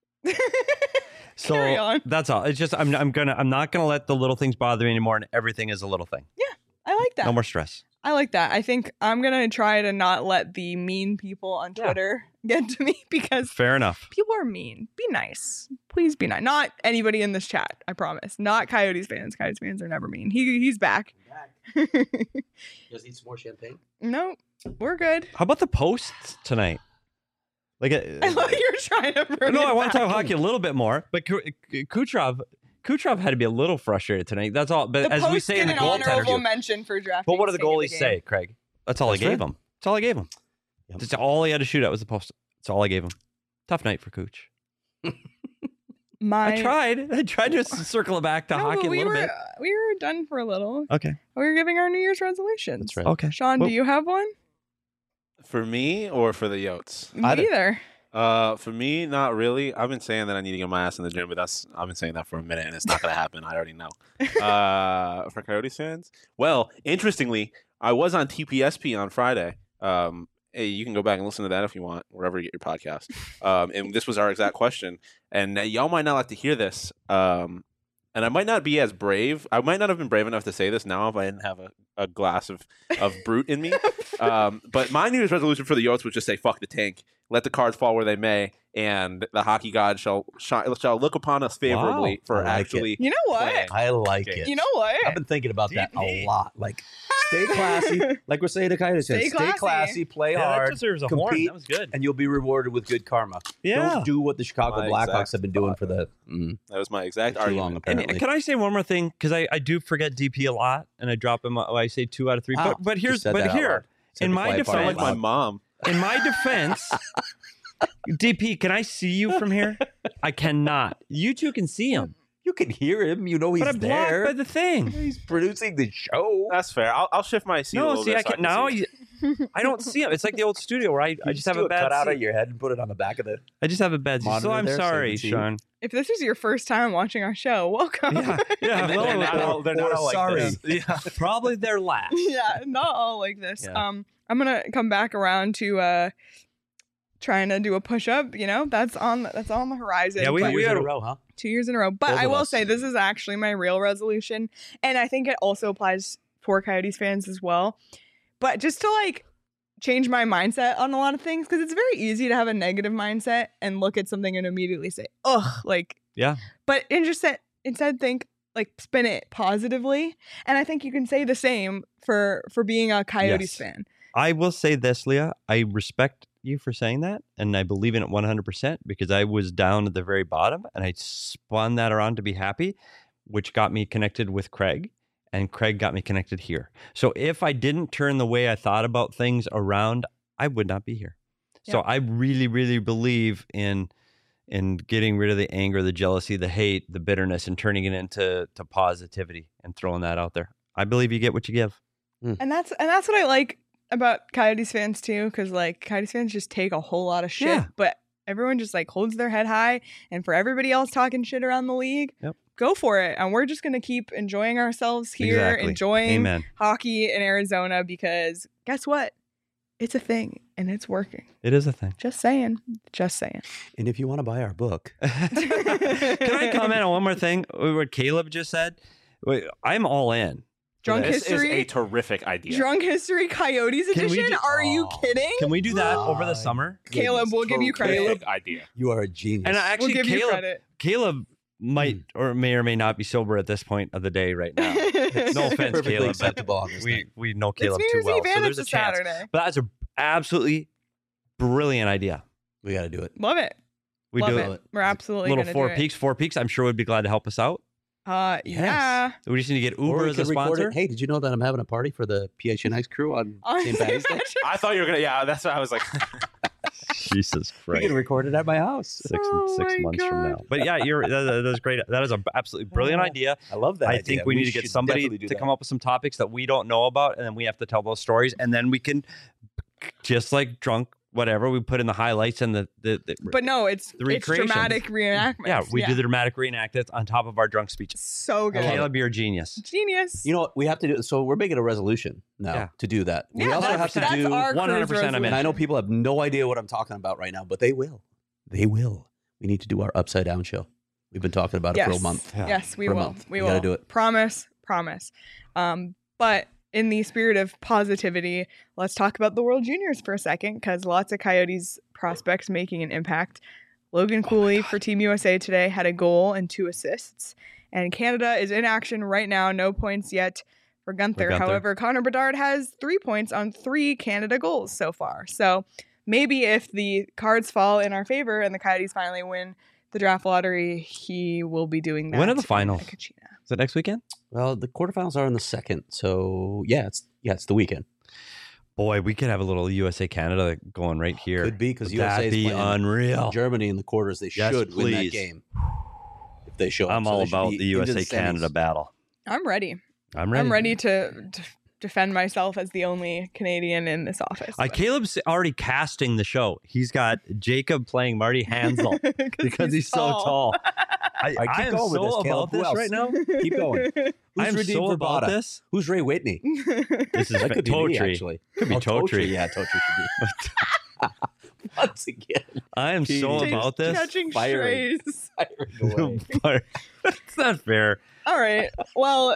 So Carry on. that's all. It's just I'm not gonna let the little things bother me anymore, and everything is a little thing. Yeah, I like that. No more stress. I like that. I think I'm going to try to not let the mean people on Twitter get to me because Fair enough. people are mean. Be nice. Please be nice. Not anybody in this chat, I promise. Not Coyotes fans. Coyotes fans are never mean. He's back. Just need some more champagne. No, we're good. How about the posts tonight? Like, I love you're trying to bring no, it I want to back. talk hockey a little bit more, but Kucherov had to be a little frustrated tonight. That's all. But The as we post say in the get an honorable goaltenders, mention for drafting. but what do the king of goalies game. say, Craig? That's all I gave him. That's all I gave him. Yep. That's all he had to shoot at was the post. That's all I gave him. Tough night for Cooch. I tried to circle it back to No, hockey but a little bit. We were done for a little. Okay. We were giving our New Year's resolutions. That's right. Okay. Sean, Well- do you have one? For me or for the Yotes? Either. Either. For me, not really. I've been saying that I need to get my ass in the gym, but I've been saying that for a minute, and it's not going to happen. I already know. For Coyotes fans, well, interestingly, I was on TPSP on Friday. Hey, you can go back and listen to that if you want, wherever you get your podcast. And this was our exact question, and y'all might not like to hear this. And I might not be as brave. I might not have been brave enough to say this now if I didn't have a glass of brute in me. But my New Year's resolution for the Yotes was just say, fuck the tank. Let the cards fall where they may, and the hockey god shall look upon us favorably Wow. for I like actually. You know what? playing. I like Okay. it. You know what? I've been thinking about that a DP. lot. Like, stay classy. Like we're saying to Coyotes fans, Stay stay classy, play Yeah, that hard, deserves a horn. compete, That was good. and you'll be rewarded with good karma. Yeah. Don't do what the Chicago My Blackhawks exact have been doing for the That was my exact too long, argument. apparently. And can I say one more thing? Because I do forget DP a lot, and I drop him. I say 2 out of 3. Wow. But You here's said that out loud. Said in the my quiet part Sound defense, like out my loud. mom. in my defense, DP, can I see you from here? I cannot. You two can see him, You can hear him. You know he's but I'm blocked there. by the thing. He's producing the show. That's fair. I'll shift my seat a No, little see, bit. I so can now. see. I don't see him. It's like the old studio where I just have do a bad cut out seat. of your head and put it on the back of the. I just have a bad seat. So monitor I'm there so you sorry, can see you. Sean. If this is your first time watching our show, welcome. Yeah, yeah. They're hello. not all- they're not all like sorry. this. Yeah, probably their last. Yeah, not all like this. Yeah. I'm gonna come back around to trying to do a push up. You know, that's on the horizon. Yeah, we- but- Two years had in a- a row, huh? 2 years in a row. But Both I of will us. say this is actually my real resolution, and I think it also applies for Coyotes fans as well. But just to like change my mindset on a lot of things, because it's very easy to have a negative mindset and look at something and immediately say, "Ugh," like Yeah. But instead think like spin it positively, and I think you can say the same for being a Coyotes Yes. fan. I will say this, Leah. I respect you for saying that, and I believe in it 100% because I was down at the very bottom, and I spun that around to be happy, which got me connected with Craig, and Craig got me connected here. So if I didn't turn the way I thought about things around, I would not be here. So Yeah. I really, really believe in getting rid of the anger, the jealousy, the hate, the bitterness, and turning it into positivity and throwing that out there. I believe you get what you give. And that's what I like about Coyotes fans too, because like Coyotes fans just take a whole lot of shit, Yeah. but everyone just like holds their head high. And for everybody else talking shit around the league, Yep. go for it. And we're just gonna keep enjoying ourselves here, Exactly. enjoying Amen. hockey in Arizona, because guess what? It's a thing and it's working. It is a thing. Just saying. Just saying. And if you want to buy our book, Can I comment on one more thing? What Caleb just said? Wait, I'm all in. Drunk This History. is a terrific idea. Drunk History Coyotes edition? Are you kidding? Can we do that over the summer? Caleb, we'll give you credit. Terrific idea. you are a genius. And actually, We'll give you Caleb, credit. Caleb might or may not be sober at this point of the day right now. No offense, perfectly Caleb. acceptable on this We thing. we know It's Caleb New too Year's well, Eve so and there's it's a a chance. Saturday. But that's an absolutely brilliant idea. We got to do it. Love it. We Love do it. We're absolutely little gonna Four do Peaks. Four Peaks. I'm sure would be glad to help us out. it. Yeah. We just need to get Or Uber we as a could record sponsor. it. Hey, did you know that I'm having a party for the PHNX crew on St. Patrick's Day? I thought you were gonna. Yeah, that's what I was like. Jesus We Christ. can record it at my house. Six Oh my months from now. God. But yeah, that is great. That is an absolutely brilliant idea. I love that. I idea. think we need to get should somebody definitely do to that. come up with some topics that we don't know about, and then we have to tell those stories, and then we can, just like drunk, whatever, we put in the highlights and the But no, it's recreations. dramatic reenactment. yeah, we do the dramatic reenactments on top of our drunk speeches. So good. Caleb, you're a genius. Genius. You know what? We have to do. So we're making a resolution now Yeah. to do that. We Yeah, also that's- have to that's do. our 100% cruise I'm in. And I know resolution. people have no idea what I'm talking about right now, but they will. They will. We need to do our Upside Down show. We've been talking about it for a month. Yeah. Yes, we For a will. month. We We will. gotta do it. Promise. But in the spirit of positivity, let's talk about the World Juniors for a second, because lots of Coyotes prospects making an impact. Logan Cooley for Team USA today had a goal and 2 assists. And Canada is in action right now. No points yet for Gunther. Gunther. However, Connor Bedard has 3 points on 3 Canada goals so far. So maybe if the cards fall in our favor and the Coyotes finally win the draft lottery, he will be doing that. When are the in finals? Kachina. Is it next weekend? Well, the quarterfinals are in the second, so it's the weekend. Boy, we could have a little USA Canada going right here. Could be because Would USA that is be playing unreal. Germany in the quarters. They Yes, should win that please. game if they show up. I'm So all they should about be the into USA Canada semis. battle. I'm ready. I'm ready. I'm ready to defend myself as the only Canadian in this office. but- Caleb's already casting the show. He's got Jacob playing Marty Hansel because he's so tall. I right, keep am going with so this, about Caleb. Who this else? right now. Keep going. Who's I'm redeemed so for about Bada? this. Who's Ray Whitney? This is That could be me, Totri. actually. Could be Totri. Yeah, Totri should be. Once again, I am so Jeez. about this. Catching Firing. strays. firing away. It's not fair. All right. Well,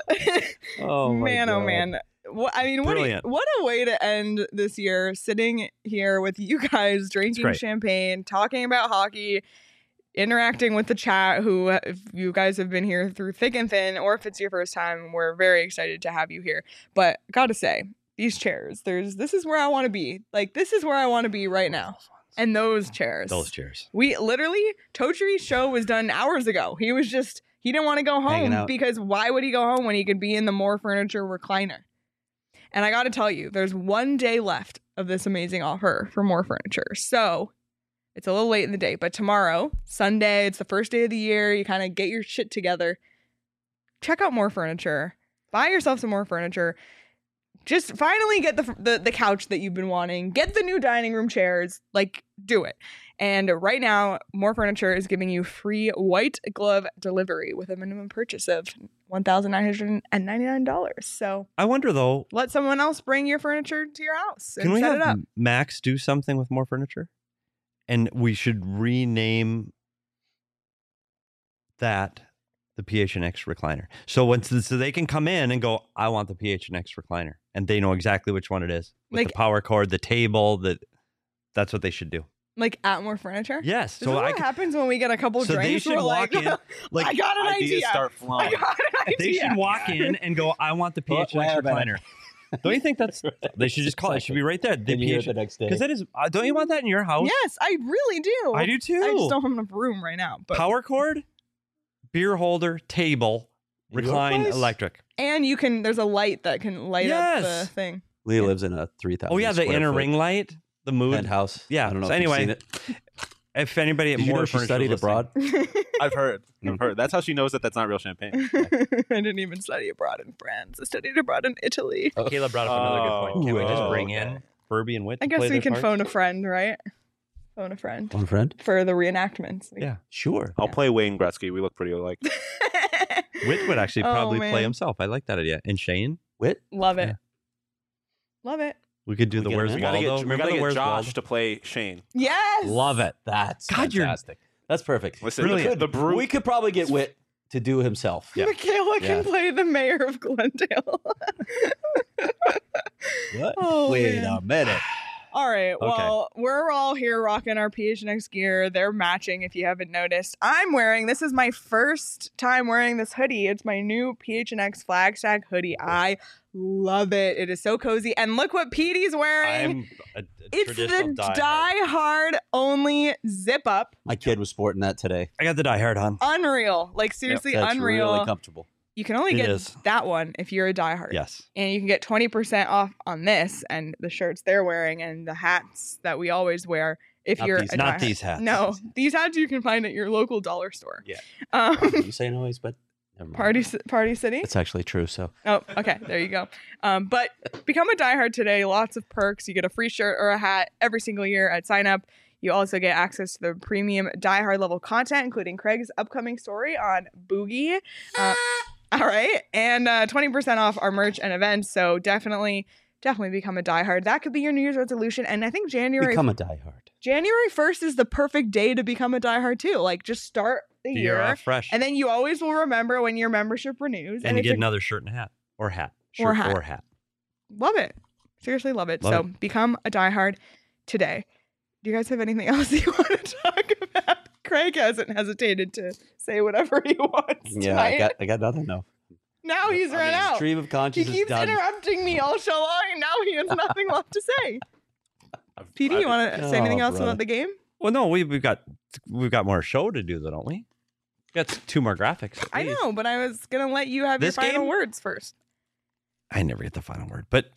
Oh my man, God. oh man. What Brilliant. what a way to end this year, sitting here with you guys, drinking great. champagne, talking about hockey, interacting with the chat, who, if you guys have been here through thick and thin, or if it's your first time, we're very excited to have you here. But gotta say, these chairs, this is where I want to be. Like, this is where I want to be right now. And those chairs. Those chairs. We literally, Totri's show was done hours ago. He didn't want to go Hanging home out. because why would he go home when he could be in the More Furniture recliner? And I got to tell you, there's 1 day left of this amazing offer for More Furniture. So it's a little late in the day, but tomorrow, Sunday, it's the first day of the year. You kind of get your shit together. Check out More Furniture. Buy yourself some More Furniture. Just finally get the couch that you've been wanting. Get the new dining room chairs. Like, do it. And right now, More Furniture is giving you free white glove delivery with a minimum purchase of $1,999. So I wonder though, let someone else bring your furniture to your house and can we set have it up. Max do something with More Furniture? And we should rename that the PHNX recliner. So so they can come in and go, I want the PHNX recliner. And they know exactly which one it is. With Like- the power cord, the table, that's what they should do. Like at More Furniture. Yes. This is what happens when we get a couple so they drinks. should We're walk like, in. I got an Ideas idea. start I flowing. got an idea. They should walk in and go, I want the Well, PHNX wait a minute. recliner. Don't you think they should just call it? It should be right there. The Then you hear it PH the next day. because that is. Don't you want that in your house? Yes, I really do. I do too. I just don't have enough room right now. But Power cord, beer holder, table, In your recline, place? electric. and there's a light that can light up the Yes. thing. Leah lives in a 3,000. Oh yeah, the square inner foot ring light, the mood. penthouse. Yeah, I don't know so if you've anyway, seen it. If anybody at Did you More know she Furniture studied is listening- abroad? I've heard. That's how she knows that that's not real champagne. I didn't even study abroad in France. I studied abroad in Italy. Caleb brought up another good point. Can we just Oh, bring okay. in Furby and Whit? I to guess play we their can parts? phone a friend, right? Phone a friend One friend? for the reenactments. Yeah. Sure. I'll play Wayne Gretzky. We look pretty alike. Whit would actually Oh, probably play man. himself. I like that idea. And Shane? Wit? Love it. Yeah. Love it. We could do the get Where's him We in? gotta Waldo. get, we Remember gotta the get Where's Josh Waldo? to play Shane. Yes. Love it. That's God, you're- fantastic. That's perfect. Listen, Brilliant. the brute. We could probably get Whit to do himself. Yeah. Michaela can Yeah. play the mayor of Glendale. What? Oh, Wait man. a minute. All right. Well, we're all here rocking our PHNX gear. They're matching if you haven't noticed. This is my first time wearing this hoodie. It's my new PHNX Flagstaff hoodie. I love it. It is so cozy. And look what Petey's wearing. I'm a It's traditional the diehard. Die Hard only zip up. My kid was sporting that today. I got the diehard on. Unreal. Like seriously That's unreal. really comfortable. You can only It get is. that one if you're a diehard. Yes. And you can get 20% off on this and the shirts they're wearing and the hats that we always wear if Not you're these- a Not diehard. these hats. No, these hats you can find at your local dollar store. Yeah. Um, You say noise, but never mind. Party City. It's actually true. So Oh, okay. There you go. But become a diehard today. Lots of perks. You get a free shirt or a hat every single year at sign up. You also get access to the premium diehard level content, including Craig's upcoming story on Boogie. All right. And 20% off our merch and events. So definitely become a diehard. That could be your New Year's resolution. And I think January become a diehard. 1st is the perfect day to become a diehard too. Like just start the The year. year off fresh. And then you always will remember when your membership renews. And you it's get a- another shirt and a hat. Or hat. Shirt Or hat. or hat. Love it. Seriously love it. Love So become a diehard today. Do you guys have anything else you want to talk about? Craig hasn't hesitated to say whatever he wants. Yeah, tonight. I got nothing. No. Now he's run out. Stream of He consciousness keeps done. interrupting me all show long, and now he has nothing left to say. PD, you want to say Oh, anything else brother. about the game? Well, no, we've got more show to do, though, don't we? We got 2 more graphics. at I least. know, but I was gonna let you have This your final game? words first. I never get the final word, but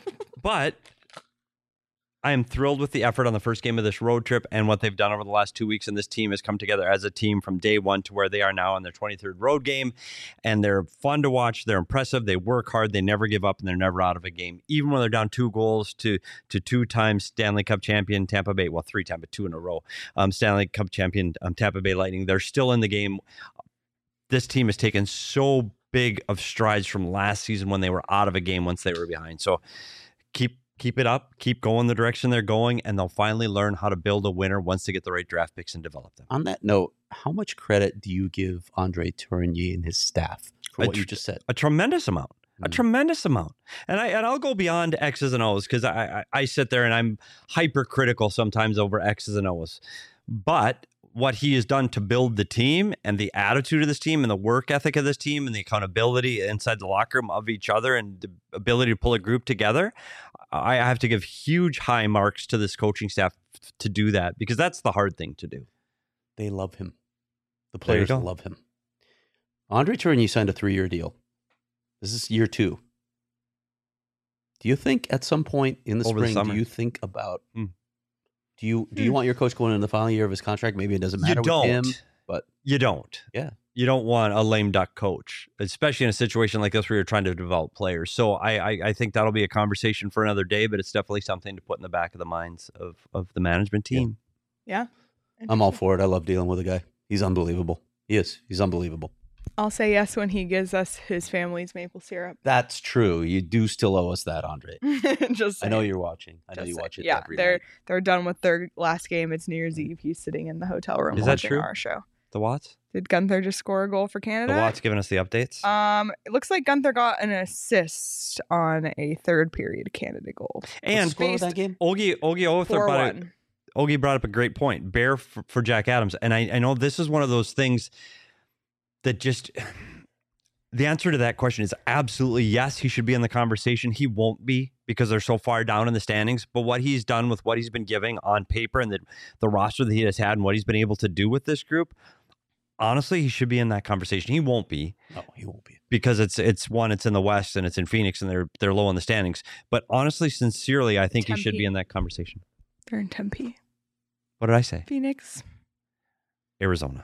I am thrilled with the effort on the first game of this road trip and what they've done over the last 2 weeks. And this team has come together as a team from day one to where they are now on their 23rd road game. And they're fun to watch. They're impressive. They work hard. They never give up, and they're never out of a game. Even when they're down 2 goals to 2-time Stanley Cup champion Tampa Bay, well, 3-time, but 2 in a row, Stanley Cup champion Tampa Bay Lightning, they're still in the game. This team has taken so big of strides from last season when they were out of a game once they were behind. So keep it up, keep going the direction they're going, and they'll finally learn how to build a winner once they get the right draft picks and develop them. On that note, how much credit do you give Andre Tourigny and his staff for what you just said? A tremendous amount. A Mm. tremendous amount. And I'll go beyond X's and O's because I sit there and I'm hypercritical sometimes over X's and O's. But what he has done to build the team and the attitude of this team and the work ethic of this team and the accountability inside the locker room of each other and the ability to pull a group together, I have to give huge high marks to this coaching staff to do that, because that's the hard thing to do. They love him. The There you players go. love him. Andre Tourigny signed a 3-year deal. This is year 2. Do you think at some point in the Over the spring, summer. do you think about Hmm. do you want your coach going into the final year of his contract? Maybe it doesn't matter with him, but You don't. Yeah. You don't want a lame duck coach, especially in a situation like this where you're trying to develop players. So I think that'll be a conversation for another day, but it's definitely something to put in the back of the minds of the management team. Yeah. I'm all for it. I love dealing with a guy. He's unbelievable. He is. He's unbelievable. I'll say yes when he gives us his family's maple syrup. That's true. You do still owe us that, Andre. Just I know saying. you're watching. I know Just you saying. watch it Yeah, every they're night. they're done with their last game. It's New Year's Eve. He's sitting in the hotel room Is that watching true? our show. The Watts? Did Gunther just score a goal for The Canada? Watts giving us the updates? It looks like Gunther got an assist on a third period Canada goal. What's the and score of that game? Ogie Othar brought 4-1. Ogie brought up a great point. Bear for Jack Adams. And I know this is one of those things that just... The answer to that question is absolutely yes, he should be in the conversation. He won't be because they're so far down in the standings. But what he's done with what he's been giving on paper and the roster that he has had and what he's been able to do with this group, honestly, he should be in that conversation. He won't be. No, he won't be. Because it's in the West and it's in Phoenix and they're low in the standings. But honestly, sincerely, I think he should be Tempe. in that conversation. They're in Tempe, What did I say? Phoenix. Arizona.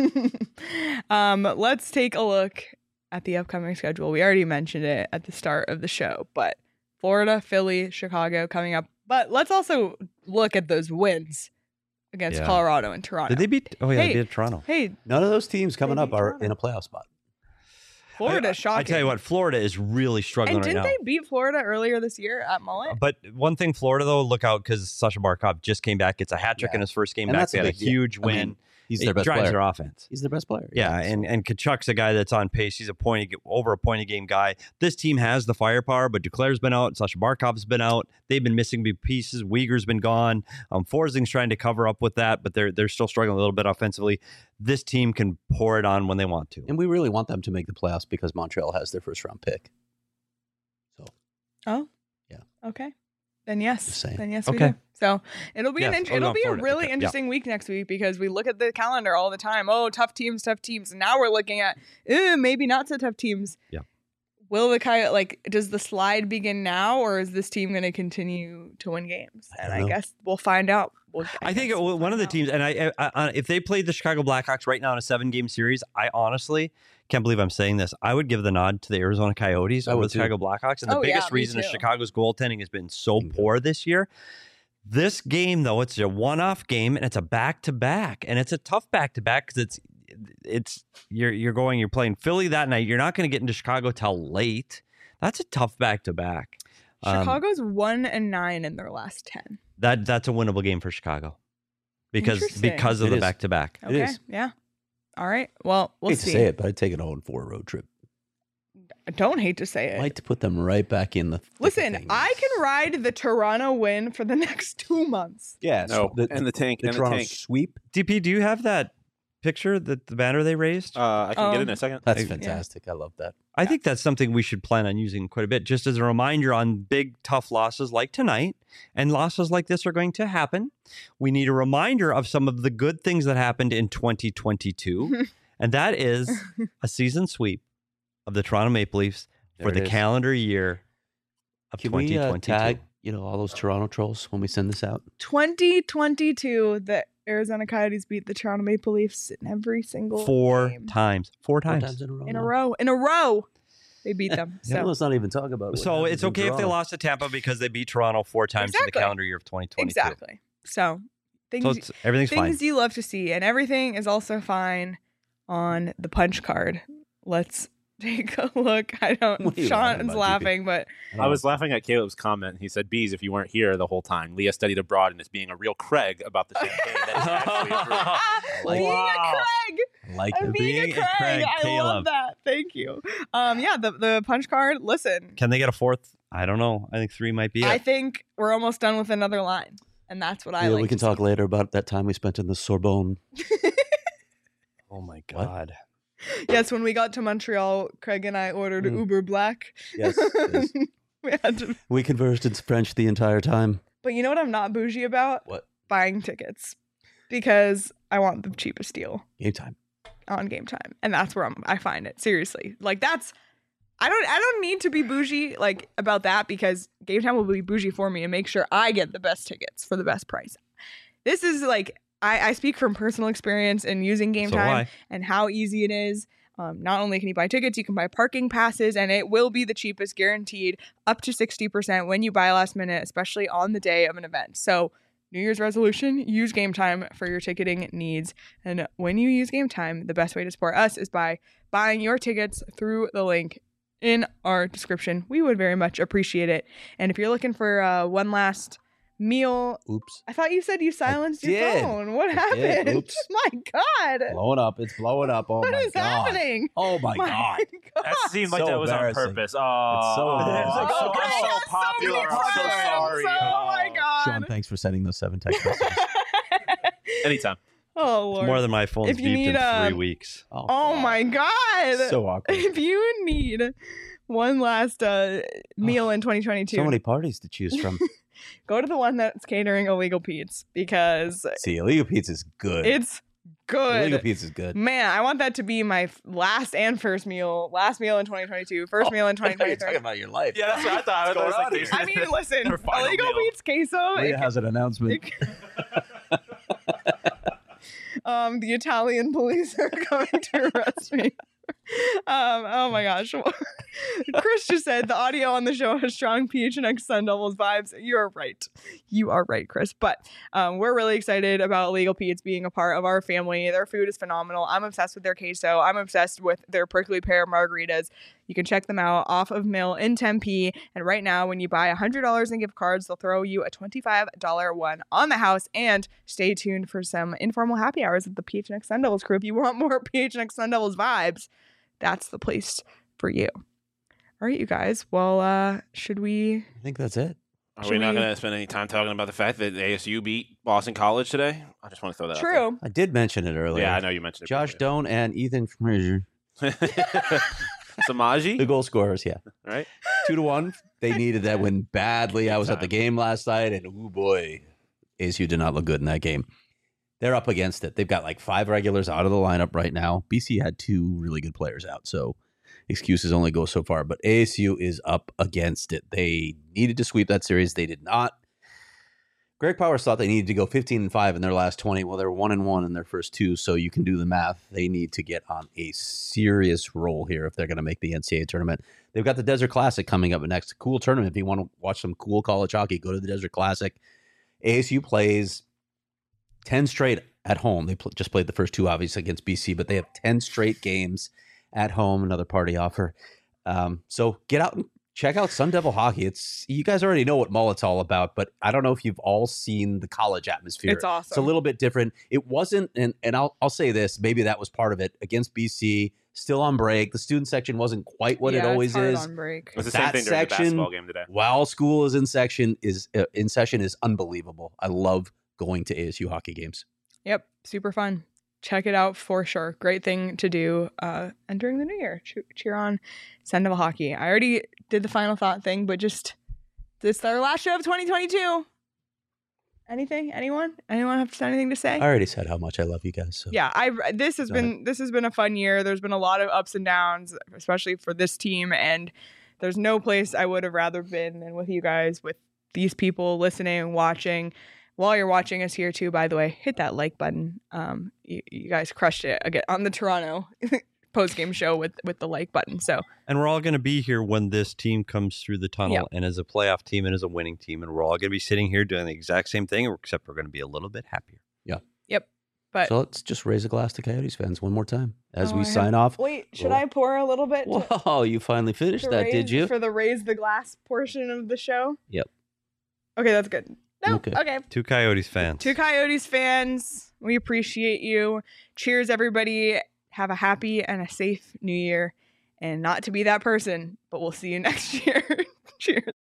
Let's take a look at the upcoming schedule. We already mentioned it at the start of the show, but Florida, Philly, Chicago coming up. But let's also look at those wins against Yeah. Colorado and Toronto. Did they beat? Oh yeah, Hey. they beat Toronto. Hey, None of those teams coming They up beat are Toronto. in a playoff spot. Florida's shocking. I tell you what, Florida is really struggling and right now. didn't they beat Florida earlier this year at Mullet? But one thing, Florida, though, look out because Sasha Barkov just came back. It's a hat trick in his first game And back. that's They a had a big deal. huge I win. mean, he's It their best drives player. their offense. He's their best player. Yeah, and Kachuk's a guy that's on pace. He's over a point a game guy. This team has the firepower, but Duclair's been out. Sasha Barkov's been out. They've been missing big pieces. Uyghur's been gone. Forsing's trying to cover up with that, but they're still struggling a little bit offensively. This team can pour it on when they want to. And we really want them to make the playoffs because Montreal has their first round pick. So. Oh. Yeah. Okay. Then yes. Just saying. Then yes, we Okay. do. So it'll be Yes. it'll be a Florida. really Okay. interesting week next week because we look at the calendar all the time. Oh, tough teams. And now we're looking at maybe not so tough teams. Yeah. Will the Coyote does the slide begin now, or is this team going to continue to win games? And I guess we'll find out. I think one of the teams, and I if they played the Chicago Blackhawks right now in a 7-game series, I honestly can't believe I'm saying this. I would give the nod to the Arizona Coyotes over the Chicago Blackhawks. And the biggest reason is Chicago's goaltending has been so poor this year. This game, though, it's a one-off game, and it's a back-to-back. And it's a tough back-to-back because you're playing Philly that night. You're not going to get into Chicago till late. That's a tough back-to-back. Chicago's 1-9 in their last 10. That's a winnable game for Chicago because of the back-to-back. Okay, yeah. All right. Well, we'll see. I hate to say it, but I'd take an 0-4 road trip. I don't hate to say it. I'd like to put them right back in the. Listen, I can ride the Toronto win for the next 2 months. Yeah, and the tank, the Toronto sweep. DP, do you have that picture, the banner they raised? I can get it in a second. That's fantastic. I love that. I think that's something we should plan on using quite a bit, just as a reminder on big, tough losses like tonight, and losses like this are going to happen. We need a reminder of some of the good things that happened in 2022, and that is a season sweep of the Toronto Maple Leafs for the calendar year of 2022. We tag, all those Toronto trolls when we send this out? 2022, the Arizona Coyotes beat the Toronto Maple Leafs in every single game. times. Four times in a row. They beat them. So let's not even talk about it. So it's okay if they lost to Tampa because they beat Toronto 4 times in the calendar year of 2022. Exactly. So everything's fine. Things you love to see, and everything is also fine on the punch card. Let's take a look. Sean is laughing, but I was laughing at Caleb's comment. He said, "Bees, if you weren't here the whole time, Leah studied abroad and is being a real Craig about the champagne that is actually approved." Being a Craig. I love that. Thank you. The punch card. Listen, can they get a fourth? I don't know. I think 3 might be it. I think we're almost done with another line, and that's what I like. We can talk later about that time we spent in the Sorbonne. Oh my God. Yes, when we got to Montreal, Craig and I ordered Uber Black. Yes. we We conversed in French the entire time. But you know what I'm not bougie about? What? Buying tickets. Because I want the cheapest deal. Game time. On Game Time. And that's where I find it. Seriously. I don't need to be bougie about that because Game Time will be bougie for me and make sure I get the best tickets for the best price. This is I speak from personal experience in using Game Time and how easy it is. Not only can you buy tickets, you can buy parking passes, and it will be the cheapest, guaranteed, up to 60% when you buy last minute, especially on the day of an event. So New Year's resolution, use Game Time for your ticketing needs. And when you use Game Time, the best way to support us is by buying your tickets through the link in our description. We would very much appreciate it. And if you're looking for one last meal. Oops. I thought you said you silenced your phone. What happened? Oops. My God. Blowing up. It's blowing up. Oh what my is God. happening? Oh my God. That seemed like So that was on embarrassing. purpose. It's so Oh, embarrassing. Craig so has popular. many I'm so friends. sorry. Oh my God. Sean, thanks for sending those 7 text messages. Anytime. Oh Lord. It's more than my phone's If you beeped need, in 3 weeks. Oh God. my God. So awkward. If you need one last meal in 2022, So many parties to choose from. go to the one that's catering Illegal Pete's because See, Illegal Pizza is good. it's good. Illegal Pizza is good. Man, I want that to be my last and first meal. Last meal in 2022. First meal in I thought you were 2023. talking about your life. Yeah, that's what I thought. What's going on here? I mean, listen, Their final Illegal meal. Pete's queso. Leah has an announcement. The Italian police are coming to arrest me. Oh my gosh. Chris just said the audio on the show has strong PHNX Sun Devils vibes. You're right. You are right, Chris. But we're really excited about Legal Pete's being a part of our family. Their food is phenomenal. I'm obsessed with their queso. I'm obsessed with their prickly pear margaritas. You can check them out off of Mill in Tempe. And right now, when you buy $100 in gift cards, they'll throw you a $25 one on the house. And stay tuned for some informal happy hours with the PHNX Sun Devils crew. If you want more PHNX Sun Devils vibes, that's the place for you. All right, you guys. Well, should we? I think that's it. Are we not going to spend any time talking about the fact that ASU beat Boston College today? I just want to throw that out there. True. I did mention it earlier. Yeah, I know you mentioned it. Josh Doan and Ethan Frazier. Samaji? The goal scorers, yeah. Right? 2-1. They needed that win badly. I was at the game last night, and oh boy, ASU did not look good in that game. They're up against it. They've got like 5 regulars out of the lineup right now. BC had 2 really good players out, so excuses only go so far. But ASU is up against it. They needed to sweep that series. They did not. Greg Powers thought they needed to go 15-5 in their last 20. Well, they're 1-1 in their first 2, so you can do the math. They need to get on a serious roll here if they're going to make the NCAA tournament. They've got the Desert Classic coming up next. Cool tournament. If you want to watch some cool college hockey, go to the Desert Classic. ASU plays 10 straight at home. They just played the first 2, obviously, against BC, but they have 10 straight games at home. Another party offer. So get out and check out Sun Devil Hockey. You guys already know what Mullet's all about, but I don't know if you've all seen the college atmosphere. It's awesome. It's a little bit different. It wasn't, and I'll say this, maybe that was part of it, against BC, still on break. The student section wasn't quite what it always it's hard is. on break. It's the same thing during the basketball game today. While school is in session is unbelievable. I love going to ASU hockey games. Yep, super fun. Check it out for sure. Great thing to do entering the new year. Cheer on Sun Devil Hockey. I already did the final thought thing, but just this is our last show of 2022. Anything? Anyone have anything to say? I already said how much I love you guys. So. Yeah, this has been a fun year. There's been a lot of ups and downs, especially for this team, and there's no place I would have rather been than with you guys, with these people listening and watching. While you're watching us here too, by the way, hit that like button. You guys crushed it again on the Toronto post-game show with the like button. So, and we're all going to be here when this team comes through the tunnel and as a playoff team and as a winning team, and we're all going to be sitting here doing the exact same thing, except we're going to be a little bit happier. Yeah. Yep. But so let's just raise a glass to Coyotes fans one more time as we sign off. Wait, should I pour a little bit? Whoa, you finally finished that, did you? For the raise the glass portion of the show? Yep. Okay, that's good. No, okay. 2 Coyotes fans. 2 Coyotes fans. We appreciate you. Cheers, everybody. Have a happy and a safe new year. And not to be that person, but we'll see you next year. Cheers.